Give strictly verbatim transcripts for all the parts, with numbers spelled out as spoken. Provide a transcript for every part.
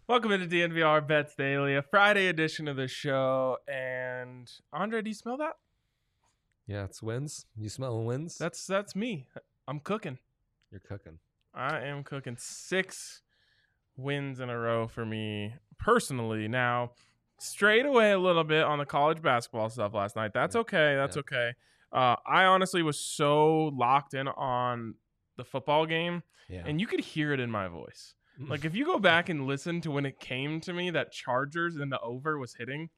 Welcome into D N V R Bets Daily, a Friday edition of the show. And Andre, do you smell that? Yeah, it's wins. You smelling wins? That's that's me. I'm cooking. You're cooking. I am cooking six wins in a row for me personally. Now, strayed away a little bit on the college basketball stuff last night. That's Yeah. okay. That's Yeah. okay. Uh, I honestly was so locked in on the football game, Yeah. and you could hear it in my voice. Like, if you go back and listen to when it came to me that Chargers and the over was hitting,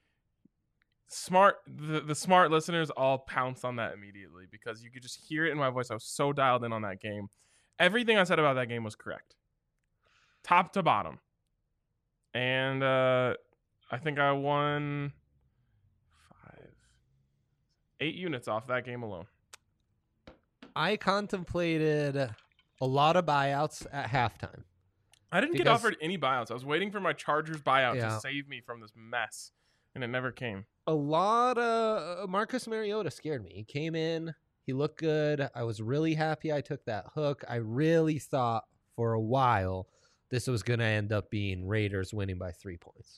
smart the, the smart listeners all pounced on that immediately because you could just hear it in my voice. I was so dialed in on that game. Everything I said about that game was correct, top to bottom. And uh, I think I won five, eight units off that game alone. I contemplated a lot of buyouts at halftime. I didn't get Because- offered any buyouts. I was waiting for my Chargers buyout Yeah. to save me from this mess, and it never came. A lot of Marcus Mariota scared me. He came in, he looked good. I was really happy I took that hook. I really thought for a while this was going to end up being Raiders winning by three points.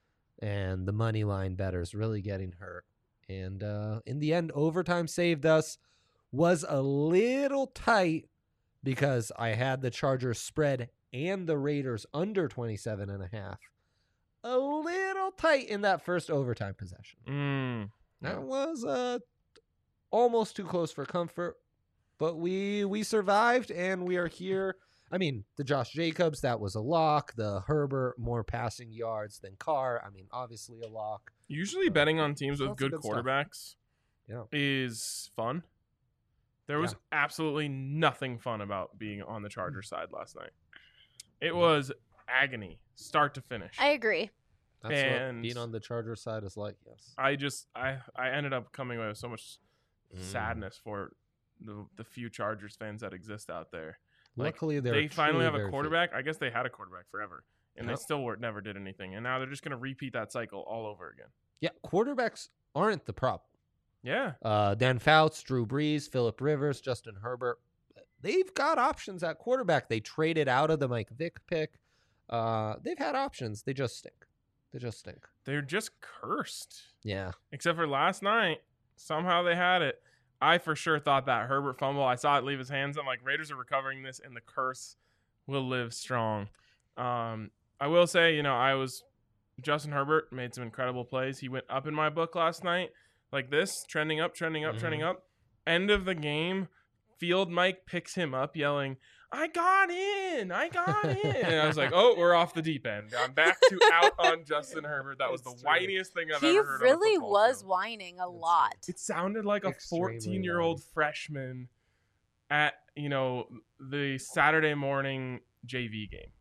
And the money line bettors really getting hurt. And uh, in the end, overtime saved us. Was a little tight because I had the Chargers spread and the Raiders under twenty-seven and a half. A little tight in that first overtime possession. Mm. That was uh, almost too close for comfort, but we we survived and we are here. I mean, the Josh Jacobs, that was a lock. The Herbert, more passing yards than Carr. I mean, obviously a lock. Usually betting on teams with Lots of good good stuff. quarterbacks Yeah. is fun. There was Yeah. absolutely nothing fun about being on the Chargers side last night. It was agony, start to finish. I agree. That's And- what being on the Charger side is like, yes. I just I I ended up coming away with so much Mm. sadness for the the few Chargers fans that exist out there. Like, Luckily, they're they finally truly have a very few. quarterback. I guess they had a quarterback forever, and Yep. they still were, never did anything. And now they're just going to repeat that cycle all over again. Yeah, quarterbacks aren't the problem. Yeah. Uh, Dan Fouts, Drew Brees, Phillip Rivers, Justin Herbert. They've got options at quarterback. They traded out of the Mike Vick pick. Uh, they've had options. They just stink. They just stink. They're just cursed. Yeah. Except for last night, somehow they had it. I for sure thought that Herbert fumble, I saw it leave his hands. I'm like, Raiders are recovering this, and the curse will live strong. Um, I will say, you know, I was Justin Herbert made some incredible plays. He went up in my book last night, like this, trending up, trending up, Mhm. trending up. End of the game, Field Mike picks him up, yelling, "I got in! I got in!" And I was like, "Oh, we're off the deep end. I'm back to out on Justin Herbert." That was the It's true. whiniest thing I've He ever heard. on a really football was field. whining a That's lot. It sounded like a Extremely fourteen-year-old whiny. freshman at, you know, the Saturday morning J V game.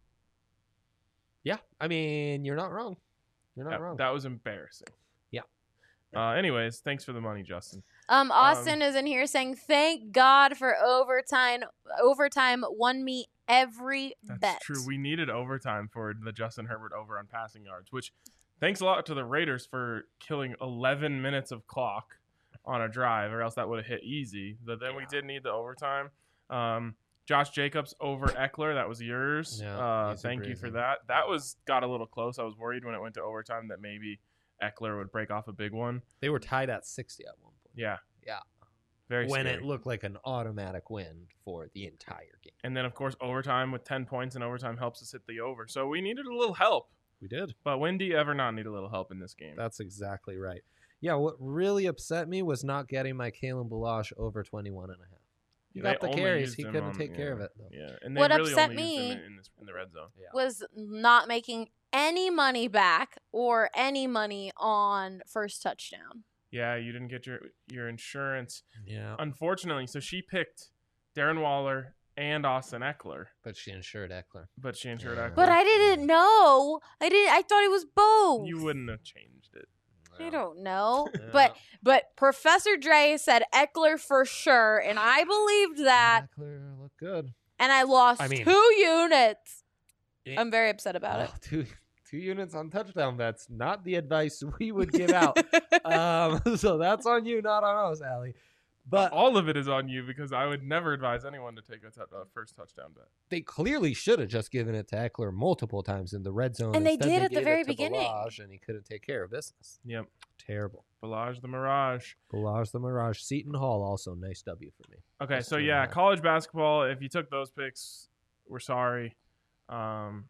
Yeah. I mean, you're not wrong. You're not That, wrong. that was embarrassing. Yeah. Uh, anyways, thanks for the money, Justin. Um, Austin is in here saying, "Thank God for overtime. Overtime won me every That's bet." true. We needed overtime for the Justin Herbert over on passing yards, which thanks a lot to the Raiders for killing eleven minutes of clock on a drive, or else that would have hit easy. But then we Yeah. did need the overtime. Um, Josh Jacobs over Eckler, that was yours. Yeah, uh, easy thank you for breezy. that. That was got a little close. I was worried when it went to overtime that maybe Eckler would break off a big one. They were tied at sixty at one point. Yeah. Yeah. Very when scary. it looked like an automatic win for the entire game. And then, of course, overtime with ten points, and overtime helps us hit the over. So we needed a little help. We did. But when do you ever not need a little help in this game? That's exactly right. Yeah, what really upset me was not getting my Kalen Balazs over twenty-one and a half. He They got the only carries. used He him couldn't on- take care yeah, of it, though. Yeah, and they What really upset only used him me in, in, this, in the red zone. Yeah. Was not making any money back or any money on first touchdown. Yeah, you didn't get your your insurance. Yeah. Unfortunately, so she picked Darren Waller and Austin Eckler, But she insured Eckler. but she insured Yeah. Eckler. But I didn't know. I didn't. I thought it was both. You wouldn't have changed it. I don't know. Yeah. But but Professor Dre said Eckler for sure, and I believed that, Eckler looked good. and I lost I mean- two units. It- I'm very upset about Well, two two units on touchdown bets. Not the advice we would give out. it. um, so that's on you, not on us, Allie. But all of it is on you because I would never advise anyone to take a, t- a first touchdown bet. they clearly should have just given it to Eckler multiple times in the red zone. And they Instead, did at the gave it very to beginning. Balazs, and he couldn't take care of business. Yep. Terrible. Balazs the Mirage. Balazs the Mirage. Seton Hall also nice W for me. Okay, That's so two and a yeah, half. college basketball. If you took those picks, we're sorry. Um,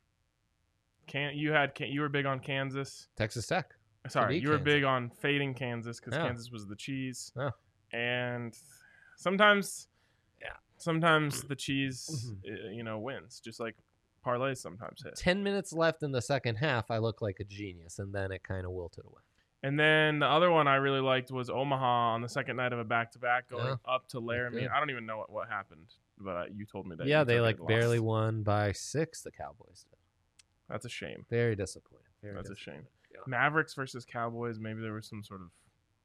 can you had can, you were big on Kansas? Texas Tech. Sorry, beat you were Kansas. big on fading Kansas because Yeah. Kansas was the cheese. Yeah. And sometimes, Yeah. sometimes the cheese, Mhm. uh, you know, wins. Just like parlays sometimes hit. Ten minutes left in the second half. I look like a genius, and then it kind of wilted away. And then the other one I really liked was Omaha on the second night of a back-to-back going Yeah. up to Laramie. good. I don't even know what, what happened, but uh, you told me that. Yeah, you they took it like and barely lost. won by six. The Cowboys did. That's a shame. Very disappointing. Very That's a disappointing. shame. Mavericks versus Cowboys. Maybe there was some sort of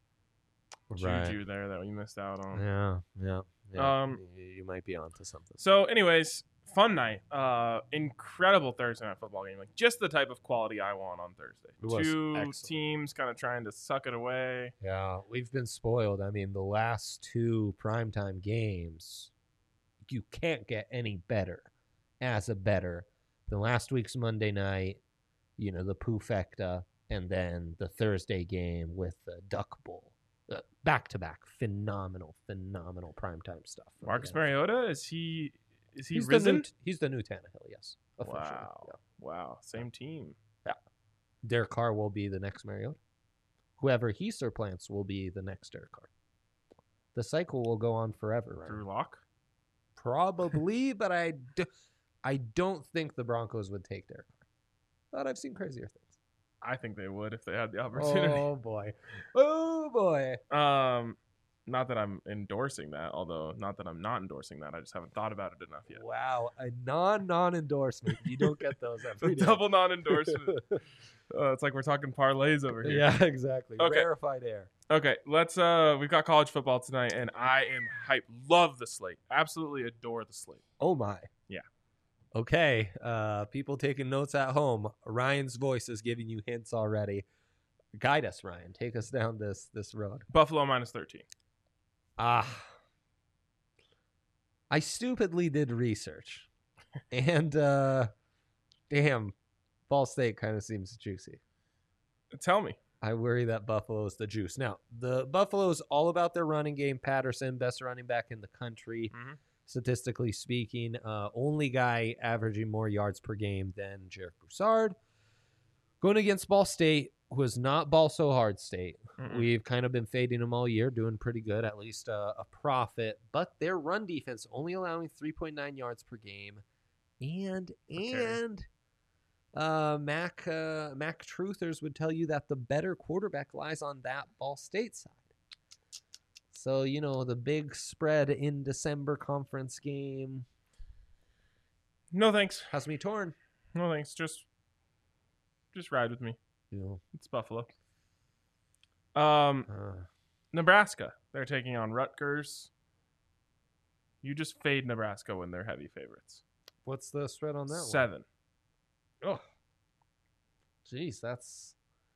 Right. juju there that we missed out on. Yeah, yeah, yeah. Um, you, you might be onto something. So, anyways, fun night. Uh, incredible Thursday night football game. Like just the type of quality I want on Thursday. It was Two excellent. teams kind of trying to suck it away. Yeah, we've been spoiled. I mean, the last two primetime games, you can't get any better as a better than last week's Monday night, you know, the Poofecta, and then the Thursday game with the Duck Bowl. Uh, back-to-back, phenomenal, phenomenal primetime stuff. from the Marcus N F L. Mariota is he is he he's risen? The new, he's the new Tannehill, yes. Officially. Wow, wow, same team. Yeah. Derek Carr will be the next Mariota. Whoever he surplants will be the next Derek Carr. The cycle will go on forever, right? Drew Lock. Probably, but I, do, I don't think the Broncos would take Derek Carr. But I've seen crazier things. I think they would if they had the opportunity. Oh boy, oh boy. Um, not that I'm endorsing that, although not that I'm not endorsing that. I just haven't thought about it enough yet. Wow, a non non endorsement. You don't get those every The day. double non-endorsement. uh, it's like we're talking parlays over here. Yeah, exactly. Okay. Rarefied air. Okay, let's. Uh, we've got college football tonight, and I am hyped. Love the slate. Absolutely adore the slate. Oh my. Yeah. Okay, uh, people taking notes at home. Ryan's voice is giving you hints already. Guide us, Ryan. Take us down this this road. Buffalo minus thirteen. Ah, I stupidly did research, and uh, damn, Ball State kind of seems juicy. Tell me. I worry that Buffalo's the juice. Now, the Buffalo's all about their running game. Patterson, best running back in the country. Mhm. Statistically speaking, uh, only guy averaging more yards per game than Jarek Broussard. Going against Ball State, who is not Ball So Hard State. Mm-mm. We've kind of been fading them all year, doing pretty good, at least uh, a profit. But their run defense only allowing three point nine yards per game. And, Okay. and uh, Mac, uh, Mac Truthers would tell you that the better quarterback lies on that Ball State side. So, you know, the big spread in December conference game No thanks. has me torn. No thanks. Just, just ride with me. You know, It's Buffalo. Um, uh, Nebraska. They're taking on Rutgers. You just fade Nebraska when they're heavy favorites. what's the spread on that Seven. one? Oh, jeez, that's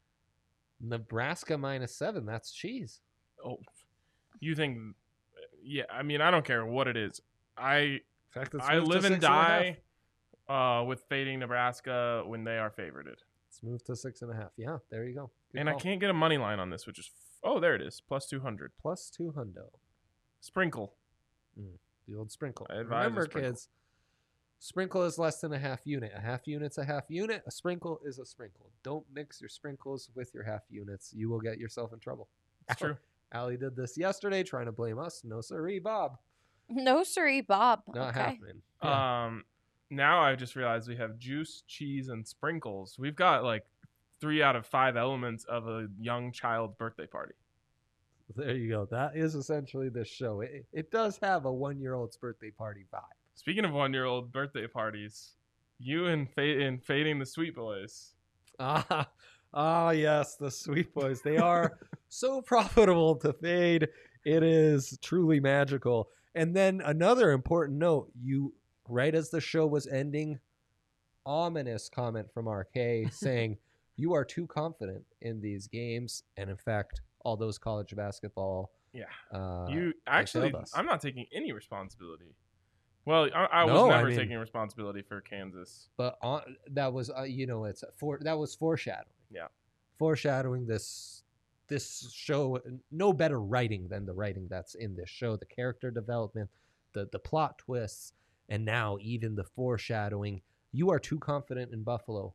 Nebraska minus seven. That's cheese. Oh, you think? Yeah, I mean, I don't care what it is. I In fact, it's I moved to live and six a half. die uh, with fading Nebraska when they are favorited. Let's move to six and a half. Yeah, there you go. Good and I call. can't get a money line on this, which is f- oh, there it is, plus two hundred. Plus two hundo. Sprinkle. The old sprinkle. I advise a Remember, sprinkle. kids, sprinkle is less than a half unit. A half unit's a half unit. A sprinkle is a sprinkle. Don't mix your sprinkles with your half units. You will get yourself in trouble. It's true. Allie did this yesterday, trying to blame us. No siree, Bob. No, siree, Bob. Not okay. happening. Yeah. Um, now I just realized we have juice, cheese, and sprinkles. We've got like three out of five elements of a young child's birthday party. There you go. That is essentially this show. It, it does have a one-year-old's birthday party vibe. Speaking of one-year-old birthday parties, you and fa- and fading the Sweet Boys. Ah, ah, yes, the Sweet Boys. They are so profitable to fade. It is truly magical. And then another important note: you, right as the show was ending, ominous comment from R K saying you are too confident in these games, and in fact, all those college basketball Yeah. Uh, You actually, failed us. I'm not taking any responsibility. Well, I, I was No, I never mean- taking responsibility for Kansas. but on, that was uh, you know it's for that was foreshadowing. Yeah. Foreshadowing this this show. No better writing than the writing that's in this show. The character development, the the plot twists, and now even the foreshadowing. You are too confident in Buffalo.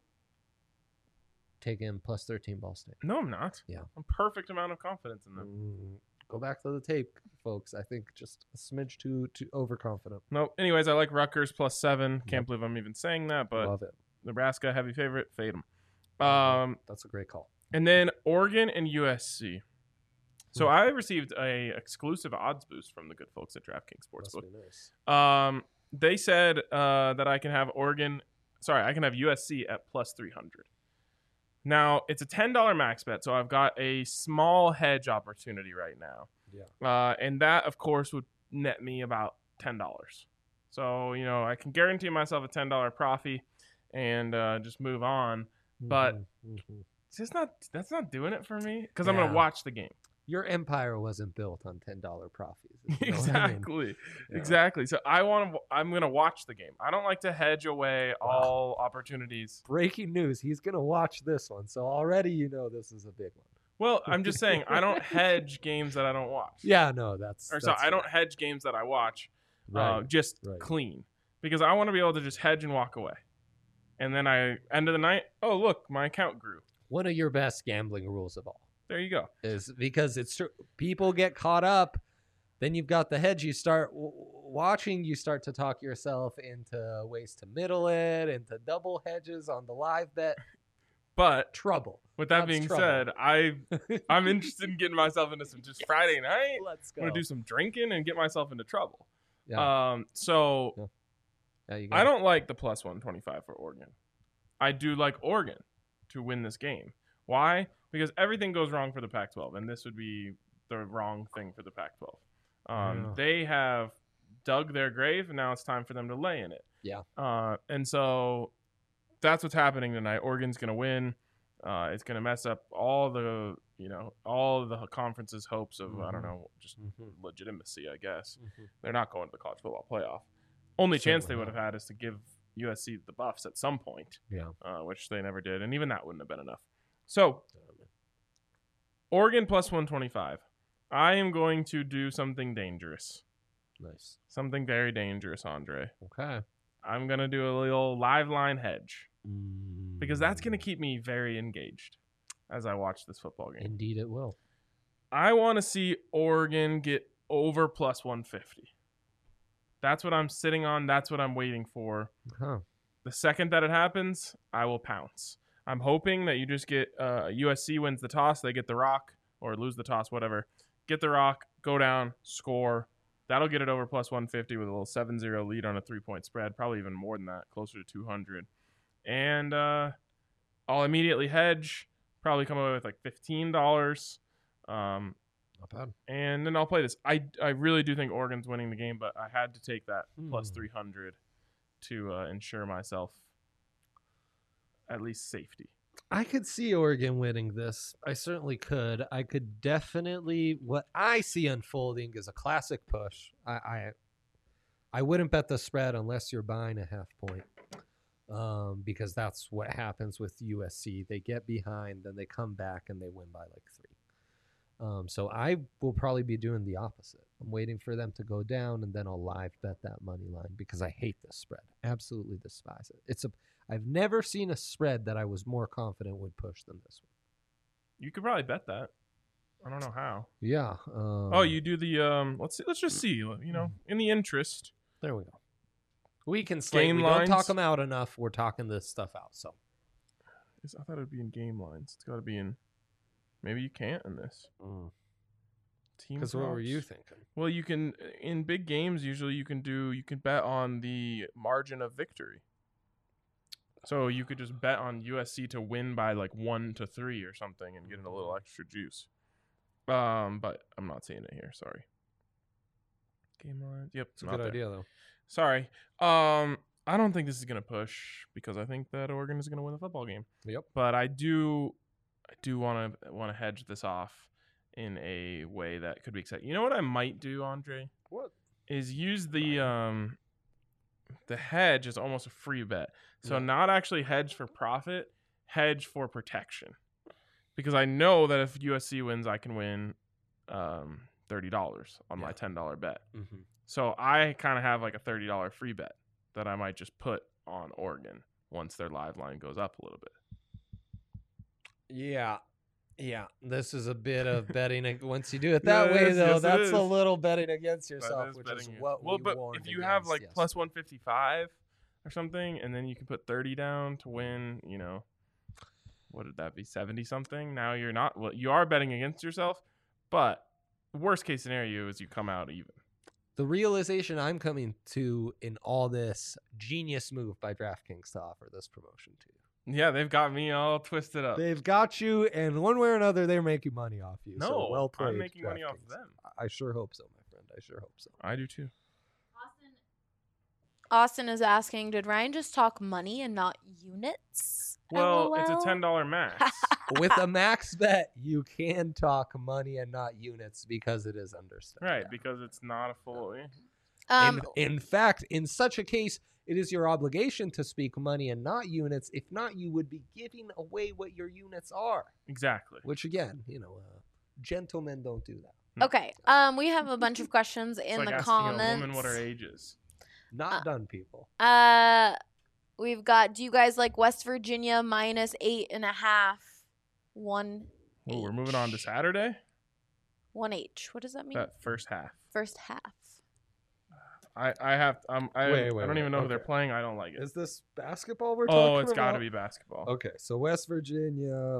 Taking plus thirteen Ball State. No, I'm not. Yeah. A perfect amount of confidence in them. Mm, go back to the tape, folks. I think just a smidge too too overconfident. No. Anyways, I like Rutgers plus seven. Can't Yep. believe I'm even saying that, but Love it. Nebraska heavy favorite. Fade them. Mhm. Um, That's a great call. and then Oregon and U S C. So Hmm. I received a exclusive odds boost from the good folks at DraftKings Must Sportsbook. be nice. Um, they said uh, that I can have Oregon. Sorry, I can have U S C at plus three hundred. Now it's a ten dollar max bet, so I've got a small hedge opportunity right now. Yeah. Uh, and that, of course, would net me about ten dollars. So you know, I can guarantee myself a ten dollar profit and uh, just move on. But- Mhm, mhm. It's just not. That's not doing it for me because I'm Yeah. gonna watch the game. Your empire wasn't built on ten dollar profits. You know what I mean? Exactly. Yeah. Exactly. So I want to. I'm gonna watch the game. I don't like to hedge away Wow. all opportunities. Breaking news: he's gonna watch this one, so already you know this is a big one. Well, I'm just saying I don't hedge games that I don't watch. Yeah, no, that's. Or so that's I don't hedge games that I watch. Right. Uh, just right. clean because I want to be able to just hedge and walk away. And then I end of the night. Oh look, my account grew. One of your best gambling rules of all There you go. is because it's true. People get caught up. Then you've got the hedge. You start w- watching. You start to talk yourself into ways to middle it, into double hedges on the live bet. But Trouble. with that That's being trouble. said, I I'm interested in getting myself into some just Friday night. Let's I'm go. gonna do some drinking and get myself into trouble. Yeah. Um. So Yeah, you go. I don't like the plus one twenty-five for Oregon. I do like Oregon to win this game. Why? Because everything goes wrong for the Pac twelve, and this would be the wrong thing for the Pac twelve. Um, Yeah. They have dug their grave, and now it's time for them to lay in it. Yeah. Uh, and so that's what's happening tonight. Oregon's going to win. Uh, it's going to mess up all the, you know, all of the conference's hopes of, I don't Mhm. know, just Mhm. legitimacy, I guess. Mhm. They're not going to the college football playoff. Only chance they Certainly would have had is to give U S C the buffs at some point, Yeah. uh, which they never did, and even that wouldn't have been enough. So, Oregon plus one twenty-five. I am going to do something dangerous, Nice. something very dangerous, Andre. Okay. I'm gonna do a little live line hedge because that's Mm. gonna keep me very engaged as I watch this football game. Indeed, it will. I want to see Oregon get over plus one fifty. That's what I'm sitting on. That's what I'm waiting for. Huh. The second that it happens, I will pounce. I'm hoping that you just get uh, U S C wins the toss, they get the rock, or lose the toss, whatever. Get the rock, go down, score. That'll get it over plus one fifty with a little seven zero lead on a three-point spread, probably even more than that, closer to two hundred. And uh, I'll immediately hedge, probably come away with like fifteen dollars. Um, Not bad. and then I'll play this. I, I really do think Oregon's winning the game, but I had to take that plus Hmm. three hundred to uh, ensure myself at least safety. I could see Oregon winning this. I certainly could. I could definitely. What I see unfolding is a classic push. I, I, I wouldn't bet the spread unless you're buying a half point, um, because that's what happens with U S C. They get behind, then they come back and they win by like three. Um, so I will probably be doing the opposite. I'm waiting for them to go down, and then I'll live bet that money line because I hate this spread. Absolutely despise it. It's a. I've never seen a spread that I was more confident would push than this one. You could probably bet that. I don't know how. Yeah. Um, Oh, you do the um. Let's see. Let's just see. You know, in the interest. There we go. We can slate. Game we don't talk lines? them out enough. We're talking this stuff out. So. I thought it would be in game lines. It's got to be in. Maybe you can't in this. Team. Because what were you props. thinking? Well, you can in big games. Usually, you can do. You can bet on the margin of victory. So you could just bet on U S C to win by like one to three or something and get a little extra juice. Um, but I'm not seeing it here. Sorry. Game lines. Yep, It's a not good there. idea, though. Sorry. Um, I don't think this is gonna push because I think that Oregon is gonna win the football game. Yep. But I do, I do want to want to hedge this off, in a way that could be exciting. You know what I might do, Andre? What? Is use the um the hedge as almost a free bet. So Yeah. not actually hedge for profit, hedge for protection. Because I know that if U S C wins, I can win um thirty dollars on Yeah. my ten dollar bet. Mm-hmm. So I kind of have like a thirty dollars free bet that I might just put on Oregon once their live line goes up a little bit. Yeah. Yeah. This is a bit of betting. ag- Once you do it that way, Yes, though, yes, it that's is. a little betting against That yourself, is which betting is you. what well, we but warned if you have against like yesterday. plus one fifty-five or something, and then you can put thirty down to win, you know, what did that be, seventy something? Now you're not, well, you are betting against yourself, but worst case scenario is you come out even. The realization I'm coming to in all this genius move by DraftKings to offer this promotion to you. Yeah, they've got me all twisted up. They've got you, and one way or another, they're making money off you. No, so well played. I'm making money off DraftKings. them. I I sure hope so, my friend. I sure hope so. I do too. Austin, Austin is asking, did Ryan just talk money and not units? Well, it's a LOL? ten dollar max. With a max bet, you can talk money and not units because it is understood. Right, Yeah. because it's not a full. Um, in, in fact, in such a case, it is your obligation to speak money and not units. If not, you would be giving away what your units are. Exactly. Which, again, you know, uh, gentlemen don't do that. okay. Um, we have a bunch of questions It's in like the asking comments. a woman what her age is. Not Uh, done, people. Uh, we've got. Do you guys like West Virginia minus eight and a half? One. Oh, we're moving on to H. Saturday. One H. What does that mean? That first half. First half. I I have um I, Wait, I wait, don't even wait, know who they're okay. playing. I don't like it. Is this basketball we're talking about? Oh, it's got to be basketball. Okay, so West Virginia,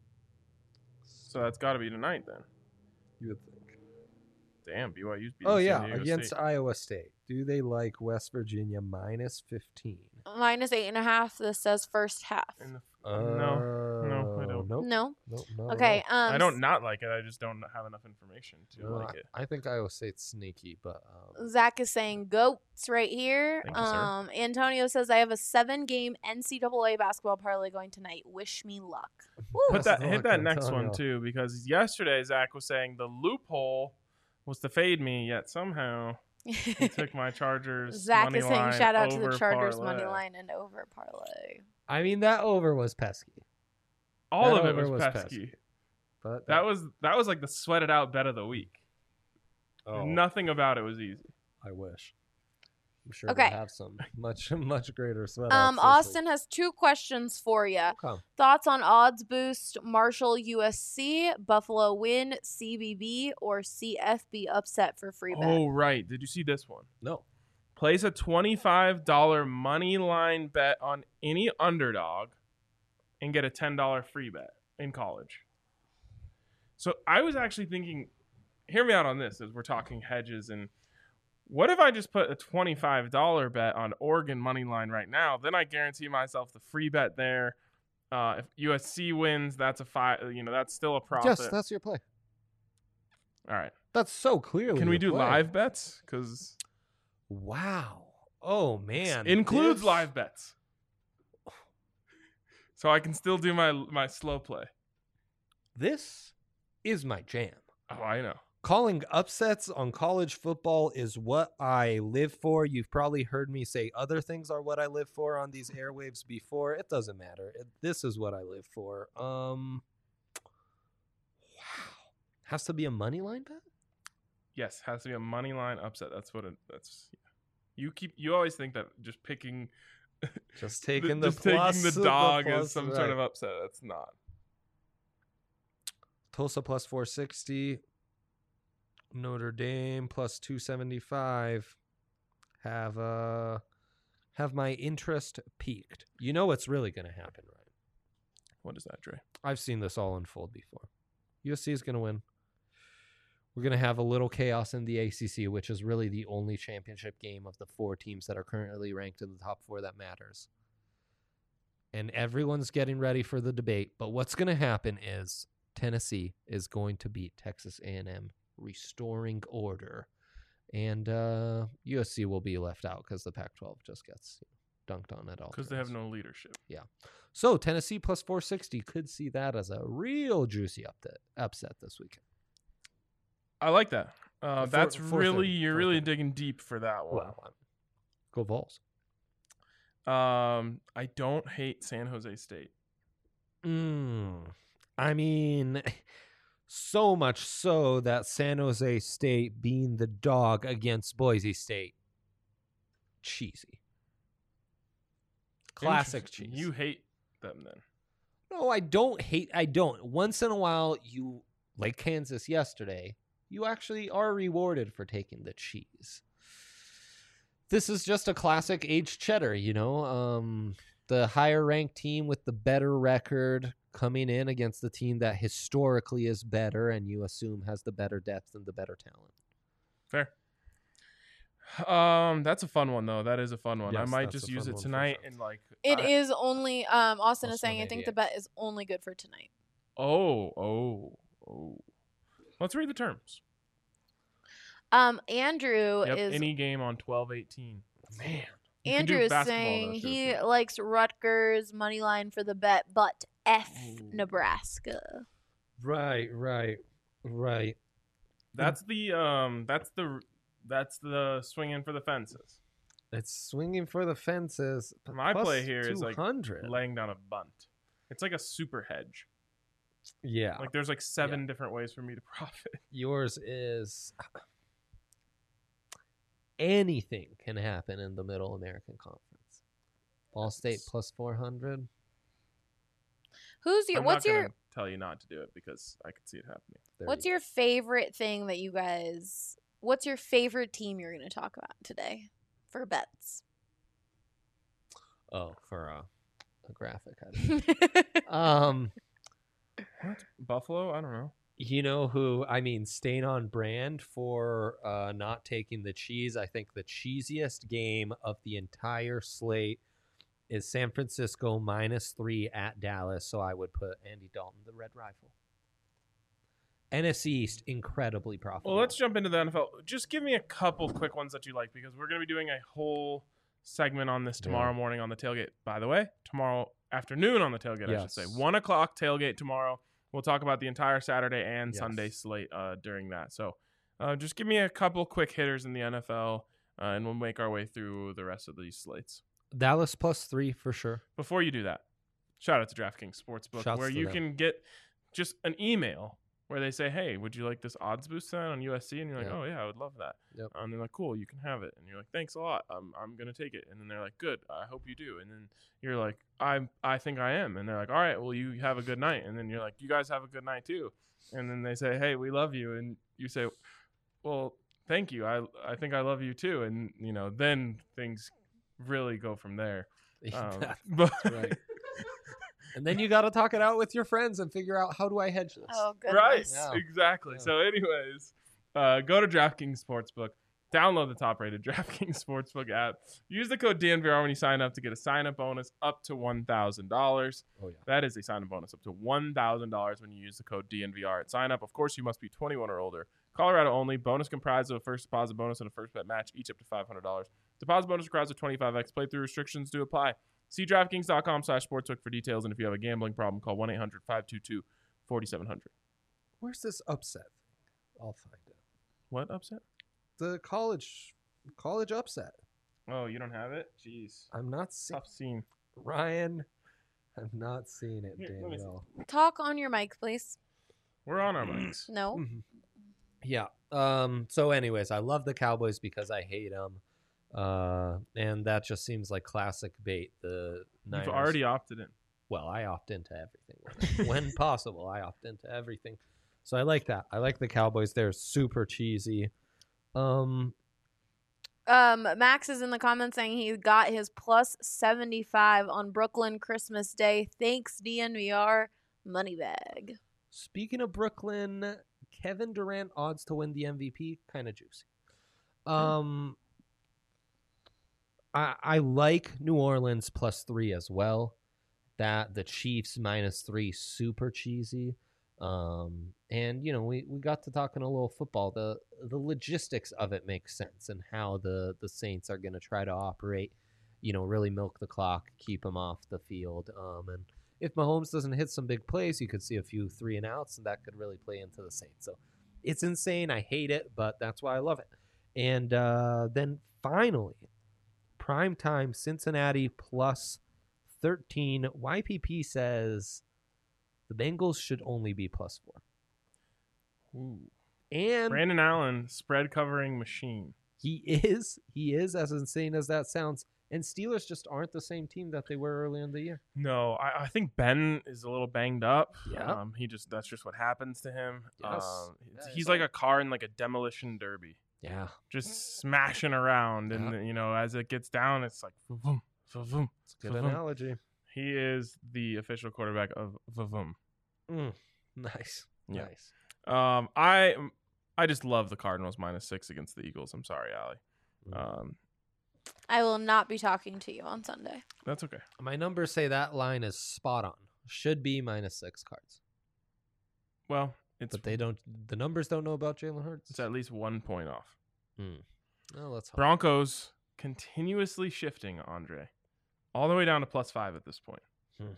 So that's got to be tonight then. you would think. Damn, B Y U's beating Oh, San yeah, Diego against State. Iowa State. Do they like West Virginia minus fifteen? Minus eight and a half. This says first half. In the, no, no, I don't. Nope. No. Nope, not at Okay. all. Um. I don't not like it. I just don't have enough information to No, like I, it. I think Iowa State's sneaky, but um, Zach is saying goats right here. Thank you, sir. um, Antonio says I have a seven-game N C double A basketball parlay going tonight. Wish me luck. Woo. Put Best that of hit luck, that next Antonio. one too, because yesterday Zach was saying the loophole was to fade me, yet somehow he took my Chargers. Zach money is saying line shout out to the over Chargers parlay. money line and over parlay. I mean that over was pesky. All That of it over was, was pesky. pesky. But That was that was like the sweated out bet of the week. oh, Nothing about it was easy. I wish. I'm sure Okay. they have some much much greater sweat. Um, Austin has two questions for you. Okay. Thoughts on odds boost, Marshall U S C, Buffalo win, C B B, or C F B upset for free bet? Oh right, did you see this one? No. Place a twenty-five dollar money line bet on any underdog and get a ten dollar free bet in college. So I was actually thinking, hear me out on this as we're talking hedges, and what if I just put a twenty-five dollar bet on Oregon money line right now? Then I guarantee myself the free bet there. Uh, if U S C wins, that's a five. You know, that's still a profit. Yes, that's your play. All right. That's so clearly. Can we your do play. live bets? Because Wow. Oh man. includes This- live bets, so I can still do my my slow play. This is my jam. Oh, I know. Calling upsets on college football is what I live for. You've probably heard me say other things are what I live for on these airwaves before. It doesn't matter. It, this is what I live for. Um, wow, has to be a money line bet. Yes, has to be a money line upset. That's what it. That's you keep. You always think that just picking, Just taking the just plus, taking the the dog plus, is some right. sort of upset. That's not. Tulsa plus four sixty. Notre Dame plus two seventy-five. Have uh have my interest peaked. You know what's really going to happen, right? What is that, Dre? I've seen this all unfold before. U S C is going to win. We're going to have a little chaos in the A C C, which is really the only championship game of the four teams that are currently ranked in the top four that matters. And everyone's getting ready for the debate. But what's going to happen is Tennessee is going to beat Texas A and M, restoring order. And uh, U S C will be left out because the Pac twelve just gets you know, dunked on at all. Because they have turns. no leadership. So Tennessee plus four sixty could see that as a real juicy upset, upset this weekend. I like that. Uh, Four- that's four really thirty, you're four really thirty. digging deep for that one. Well, I'm- go Vols. Um, I don't hate San Jose State. Mm, I mean, so much so that San Jose State being the dog against Boise State, cheesy. Classic Interesting. cheese. You hate them then. No, I don't hate. I don't. Once in a while, you like Kansas yesterday. You actually are rewarded for taking the cheese. This is just a classic aged cheddar, you know. Um, the higher ranked team with the better record coming in against the team that historically is better, and you assume has the better depth and the better talent. Fair. Um, that's a fun one though. That is a fun one. I Yes, might that's just a use fun it one for tonight sure. and like. It I- is only um Austin is Plus saying I think the one bet is only good for tonight. Oh, oh, oh. Let's read the terms. Um Andrew Yep, is any game on twelve eighteen. Man, You can do Andrew is basketball, saying though, too, he if you- likes Rutgers money line for the bet, but F Ooh. Nebraska. right, right, right. That's the um. That's the that's the swinging for the fences. It's swinging for the fences. but My play plus here is, like, two hundred. Laying down a bunt. It's like a super hedge. yeah, Like there's like seven different ways for me to profit. yours is anything can happen in the Middle American Conference. Ball State That's- plus four hundred. Who's your I'm what's not your gonna tell you not to do it because I could see it happening. what's your favorite thing that you guys what's your favorite team you're going to talk about today for bets? Oh, for a, a graphic. I um, What? Buffalo? I don't know. you know who? I mean, staying on brand for uh, not taking the cheese. I think the cheesiest game of the entire slate is San Francisco minus three at Dallas. So I would put Andy Dalton, the Red Rifle. N F C East, incredibly profitable. Well, let's jump into the N F L. Just give me a couple quick ones that you like because we're going to be doing a whole segment on this tomorrow Yeah. morning on the tailgate. By the way, tomorrow afternoon on the tailgate, I should say. Yes. One o'clock tailgate tomorrow. We'll talk about the entire Saturday and Yes. Sunday slate uh, during that. So uh, just give me a couple quick hitters in the N F L, uh, and we'll make our way through the rest of these slates. Dallas plus three for sure. Before you do that, shout out to DraftKings Sportsbook, Shouts where to you them. can get just an email where they say, hey, would you like this odds boost then on U S C? And you're like, Yeah. oh, yeah, I would love that. Yep. And they're like, cool, you can have it. And you're like, thanks a lot. I'm, I'm going to take it. And then they're like, good, I hope you do. And then you're like, I I think I am. And they're like, all right, well, you have a good night. And then you're like, you guys have a good night too. And then they say, hey, we love you. And you say, well, thank you. I, I think I love you too. And, you know, then things really go from there. Um, but right. And then you got to talk it out with your friends and figure out, how do I hedge this? Oh, goodness. Right, Yeah. exactly. Yeah. So, anyways, uh, go to DraftKings Sportsbook, download the top-rated DraftKings Sportsbook app. Use the code D N V R when you sign up to get a sign-up bonus up to one thousand dollars. Oh, yeah. That is a sign-up bonus up to one thousand dollars when you use the code D N V R at sign-up. Of course, you must be twenty-one or older. Colorado only. Bonus comprised of a first deposit bonus and a first bet match, each up to five hundred dollars. Deposit bonus requires a twenty-five x playthrough. Restrictions do apply. See DraftKings.com slash sportsbook for details, and if you have a gambling problem, call one eight hundred five two two four seven zero zero. Where's this upset? I'll find it. What upset? The college college upset. Oh, you don't have it? Jeez. I'm not seeing Tough scene. Ryan. I'm not seeing it, Here, let me see. Danielle. Talk on your mic, please. We're on our mics. No. Mhm. Yeah. Um. So, anyways, I love the Cowboys because I hate them, uh, and that just seems like classic bait. The Niners. You've already opted in. Well, I opt into everything when, when possible. I opt into everything, so I like that. I like the Cowboys. They're super cheesy. Um. Um, Max is in the comments saying he got his plus seventy-five on Brooklyn Christmas Day. Thanks, D N V R. Moneybag. Speaking of Brooklyn, Kevin Durant odds to win the M V P, kind of juicy. Um, I I like New Orleans plus three as well. That the Chiefs minus three, super cheesy. Um, and you know we, we got to talking a little football. The the logistics of it makes sense, and how the the Saints are going to try to operate. You know, really milk the clock, keep them off the field. Um, and if Mahomes doesn't hit some big plays, you could see a few three and outs, and that could really play into the Saints. So It's insane. I hate it, but that's why I love it. And uh, then finally, primetime Cincinnati plus thirteen. Y P P says the Bengals should only be plus four. Ooh. And Brandon Allen, spread covering machine. he is, he is as insane as that sounds. And Steelers just aren't the same team that they were early in the year. No, I, I think Ben is a little banged up. Yeah. Um, he just that's just what happens to him. Yes. Um, Yeah, he's he's like like- a car in like a demolition derby, Yeah. just smashing around, and Yeah. you know as it gets down, it's like vroom, vroom, It's a good vroom. analogy. He is the official quarterback of vroom. Mm, nice. Yeah. Nice. Um, I I just love the Cardinals minus six against the Eagles. I'm sorry, Allie. Mm. Um, I will not be talking to you on Sunday. that's okay. My numbers say that line is spot on. Should be minus six cards. Well, it's But they don't, the numbers don't know about Jalen Hurts. it's at least one point off. Hmm. Well, let's hope. Broncos continuously shifting, Andre, all the way down to plus five at this point. Hmm.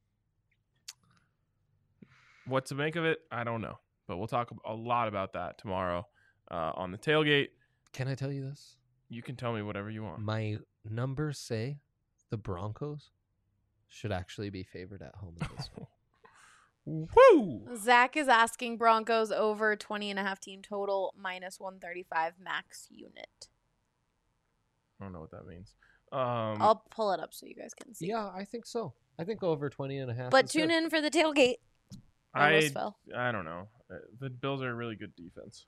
What to make of it, I don't know, but we'll talk a lot about that tomorrow uh, on the tailgate. Can I tell you this? You can tell me whatever you want. My numbers say the Broncos should actually be favored at home in this one. Woo! Zach is asking Broncos over twenty and a half team total minus one thirty-five max unit. I don't know what that means. Um, I'll pull it up so you guys can see. Yeah, I think so. I think over twenty and a half. But is tune good. in for the tailgate. I Almost fell. I don't know. Uh, The Bills are a really good defense.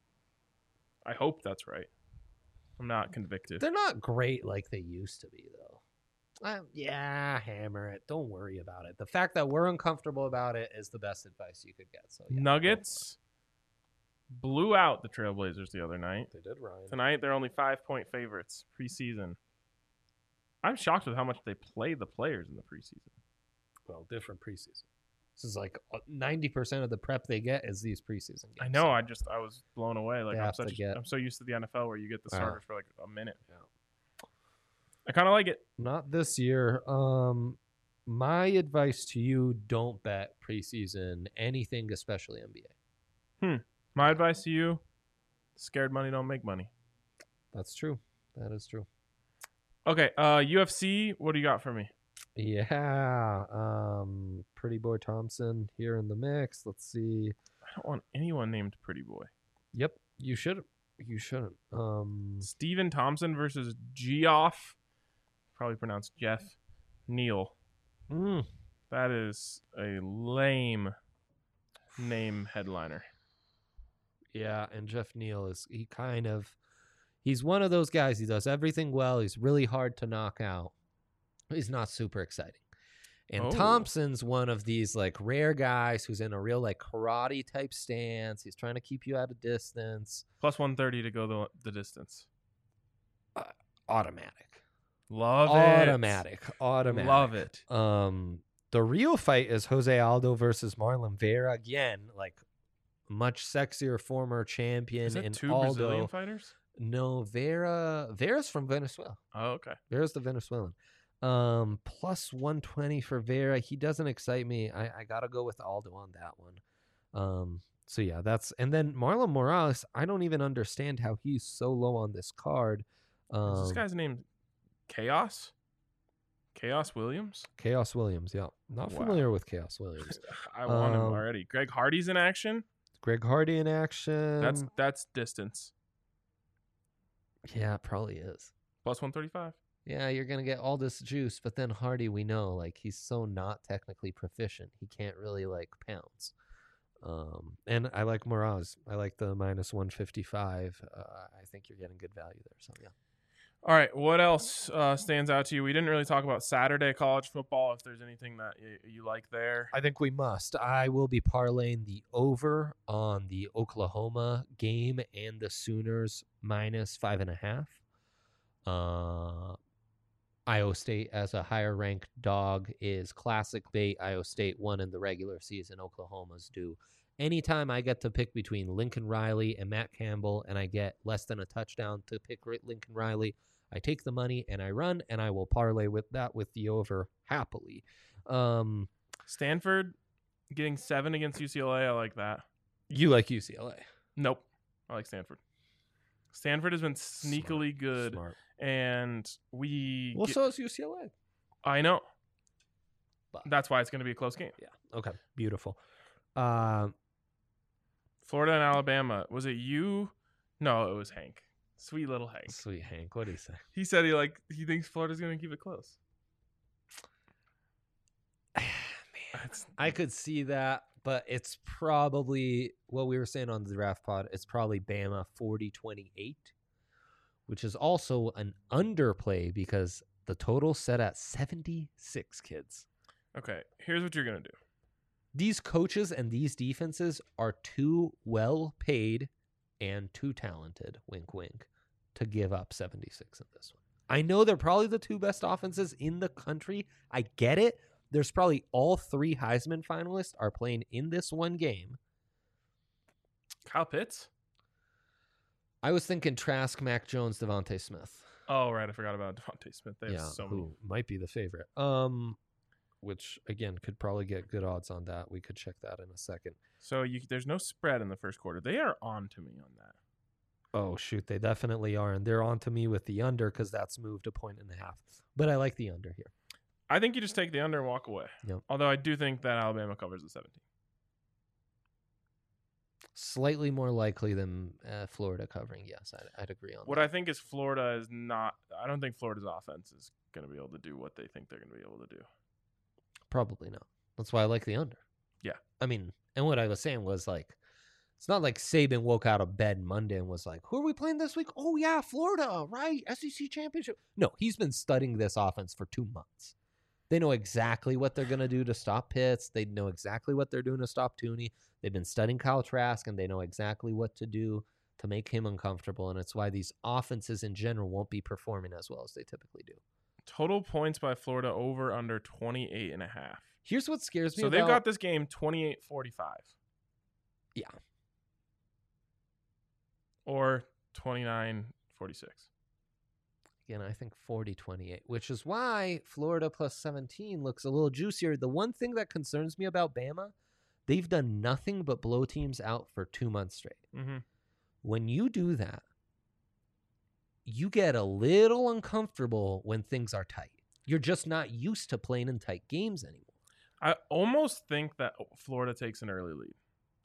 I hope that's right. I'm not convicted. They're not great like they used to be, though. Um, yeah, hammer it. Don't worry about it. The fact that we're uncomfortable about it is the best advice you could get. So yeah, go for Nuggets blew out the Trailblazers the other night. it. They did, Ryan. Tonight they're only five point favorites preseason. I'm shocked with how much they play the players in the preseason. Well, different preseason. This is like ninety percent of the prep they get is these preseason games. I know. I just I was blown away. Like They I'm have to such get- I'm so used to the N F L where you get the Wow. starters for like a minute. Yeah. I kind of like it. Not this year. Um, my advice to you: don't bet preseason anything, especially N B A. My advice to you: scared money don't make money. That's true. That is true. Okay, uh, U F C. What do you got for me? Yeah. Um, Pretty Boy Thompson here in the mix. Let's see. I don't want anyone named Pretty Boy. Yep, you should. You shouldn't. Um, Steven Thompson versus Geoff. Probably pronounced Jeff Neal. mm, That is a lame name headliner. yeah, and Jeff Neal is he kind of he's one of those guys. He does everything well. He's really hard to knock out. He's not super exciting. And Oh. Thompson's one of these like rare guys who's in a real like karate type stance. He's trying to keep you at a distance. Plus one thirty to go the, the distance. Automatic. Love it. Automatic. Automatic. Love it. Um, the real fight is Jose Aldo versus Marlon Vera. Again, like much sexier former champion Is that in two Aldo. Brazilian fighters? No, Vera. Vera's from Venezuela. Oh, okay. Vera's the Venezuelan. Um, plus one twenty for Vera. He doesn't excite me. I, I gotta go with Aldo on that one. Um, so yeah, that's and then Marlon Morales. I don't even understand how he's so low on this card. Um, Is this guy's name Chaos? Chaos Williams? Chaos Williams. Yeah, not Wow. familiar with Chaos Williams. I want him Um, already. Greg Hardy's in action. Greg Hardy in action. That's that's distance. yeah, it probably is. Plus one thirty-five. Yeah, you're gonna get all this juice, but then Hardy, we know, like he's so not technically proficient, he can't really like pounce. Um, and I like Morales. I like the minus one fifty five. Uh, I think you're getting good value there. So yeah. All right. What else uh, stands out to you? We didn't really talk about Saturday college football. If there's anything that you, you like there. I think we must. I will be parlaying the over on the Oklahoma game and the Sooners minus five and a half. Uh, Iowa State as a higher ranked dog is classic bait. Iowa State won in the regular season. Oklahoma's due. Anytime I get to pick between Lincoln Riley and Matt Campbell and I get less than a touchdown to pick Lincoln Riley, I take the money and I run, and I will parlay with that with the over happily. Um, Stanford getting seven against U C L A. I like that. you like U C L A. Nope. I like Stanford. Stanford has been sneakily Smart. good, Smart. and we. Well, get- so is U C L A. I know. But That's why it's going to be a close game. yeah. Okay. Beautiful. Um. Florida and Alabama. Was it you? No, it was Hank. Sweet little Hank. Sweet Hank. What do you say? He said he like he thinks Florida's going to keep it close. Man, That's, I could see that, but it's probably what we were saying on the draft pod. It's probably Bama forty twenty-eight, which is also an underplay because the total set at seventy-six kids. okay, here's what you're going to do. These coaches and these defenses are too well paid and too talented, wink, wink, to give up seventy-six in this one. I know they're probably the two best offenses in the country. I get it. There's probably all three Heisman finalists are playing in this one game. Kyle Pitts? I was thinking Trask, Mac Jones, Devontae Smith. Oh, right. I forgot about Devontae Smith. They have yeah, so who many. might be the favorite. Um, which again could probably get good odds on that. We could check that in a second. So you, there's no spread in the first quarter. They are on to me on that. Oh shoot, they definitely are, and they're on to me with the under because that's moved a point and a half. But I like the under here. I think you just take the under and walk away. Yep. Although I do think that Alabama covers the seventeen. Slightly more likely than uh, Florida covering. Yes, I'd, I'd agree on What that. I think is Florida is not. I don't think Florida's offense is going to be able to do what they think they're going to be able to do. Probably not. That's why I like the under. Yeah. I mean, and what I was saying was like, it's not like Saban woke out of bed Monday and was like, who are we playing this week? Oh, yeah, Florida, right? S E C championship. No, he's been studying this offense for two months. They know exactly what they're going to do to stop Pitts. They know exactly what they're doing to stop Tooney. They've been studying Kyle Trask, and they know exactly what to do to make him uncomfortable. And it's why these offenses in general won't be performing as well as they typically do. Total points by Florida over under twenty-eight and a half. Here's what scares me So about... they've got this game twenty-eight forty-five. Yeah. Or twenty-nine forty-six. Again, I think forty twenty-eight, which is why Florida plus seventeen looks a little juicier. The one thing that concerns me about Bama, they've done nothing but blow teams out for two months straight. Mm-hmm. When you do that, you get a little uncomfortable when things are tight. You're just not used to playing in tight games anymore. I almost think that Florida takes an early lead.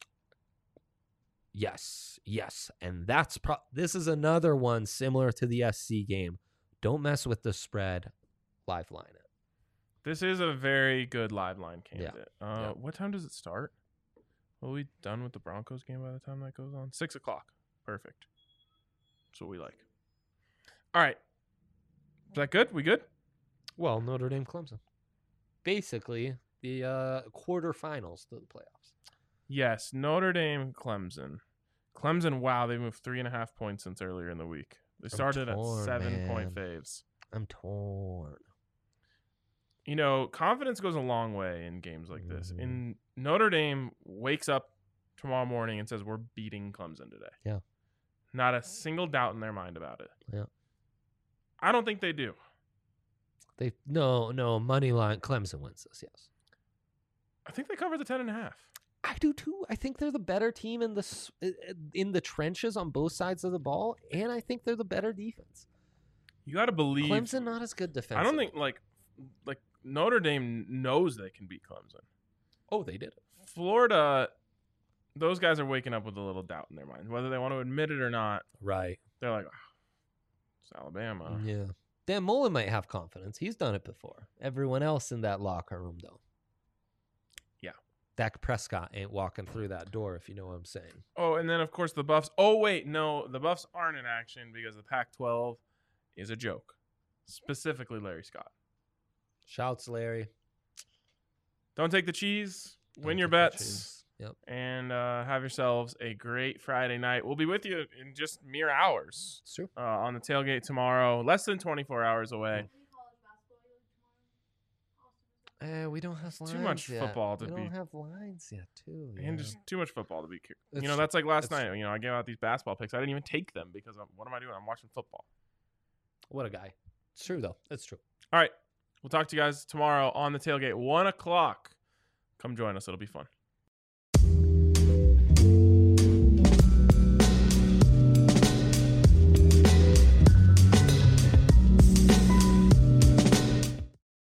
Yes, yes. And that's pro- this is another one similar to the S C game. Don't mess with the spread. Live line it. This is a very good live line Yeah. candidate. Uh, Yeah. What time does it start? Will we done with the Broncos game by the time that goes on? Six o'clock. Perfect. That's what we like. All right. Is that good? We good? Well, Notre Dame Clemson. Basically, the uh, quarterfinals to the playoffs. Yes. Notre Dame, Clemson. Clemson, wow, they moved three and a half points since earlier in the week. They started torn, at seven point man. faves. I'm torn. You know, confidence goes a long way in games like this. Mhm. In Notre Dame wakes up tomorrow morning and says, we're beating Clemson today. Yeah. Not a single doubt in their mind about it. Yeah. I don't think they do. They no no money line. Clemson wins this. Yes, I think they cover the ten and a half. I do too. I think they're the better team in the s- in the trenches on both sides of the ball, and I think they're the better defense. You got to believe. Clemson not as good defensively. I don't think like like Notre Dame knows they can beat Clemson. Oh, they did it. Florida, those guys are waking up with a little doubt in their mind, whether they want to admit it or not. Right. They're like, oh, it's Alabama. Yeah. Dan Mullen might have confidence. He's done it before. Everyone else in that locker room, though. Yeah. Dak Prescott ain't walking through that door, if you know what I'm saying. Oh, and then of course the Buffs. Oh wait, no, the Buffs aren't in action because the Pac twelve is a joke. Specifically, Larry Scott. Shouts, Larry. Don't take the cheese. Win Don't your take the bets. cheese. Yep. And uh, have yourselves a great Friday night. We'll be with you in just mere hours It's true. uh, on the tailgate tomorrow. Less than twenty-four hours away. Uh, we don't have lines Too much yet. football to we be- don't have lines yet, too. And yeah. just too much football to be curious. It's You know, true. that's like last It's night. true. You know, I gave out these basketball picks. I didn't even take them because I'm, what am I doing? I'm watching football. What a guy. It's true, though. It's true. All right. We'll talk to you guys tomorrow on the tailgate, one o'clock. Come join us. It'll be fun.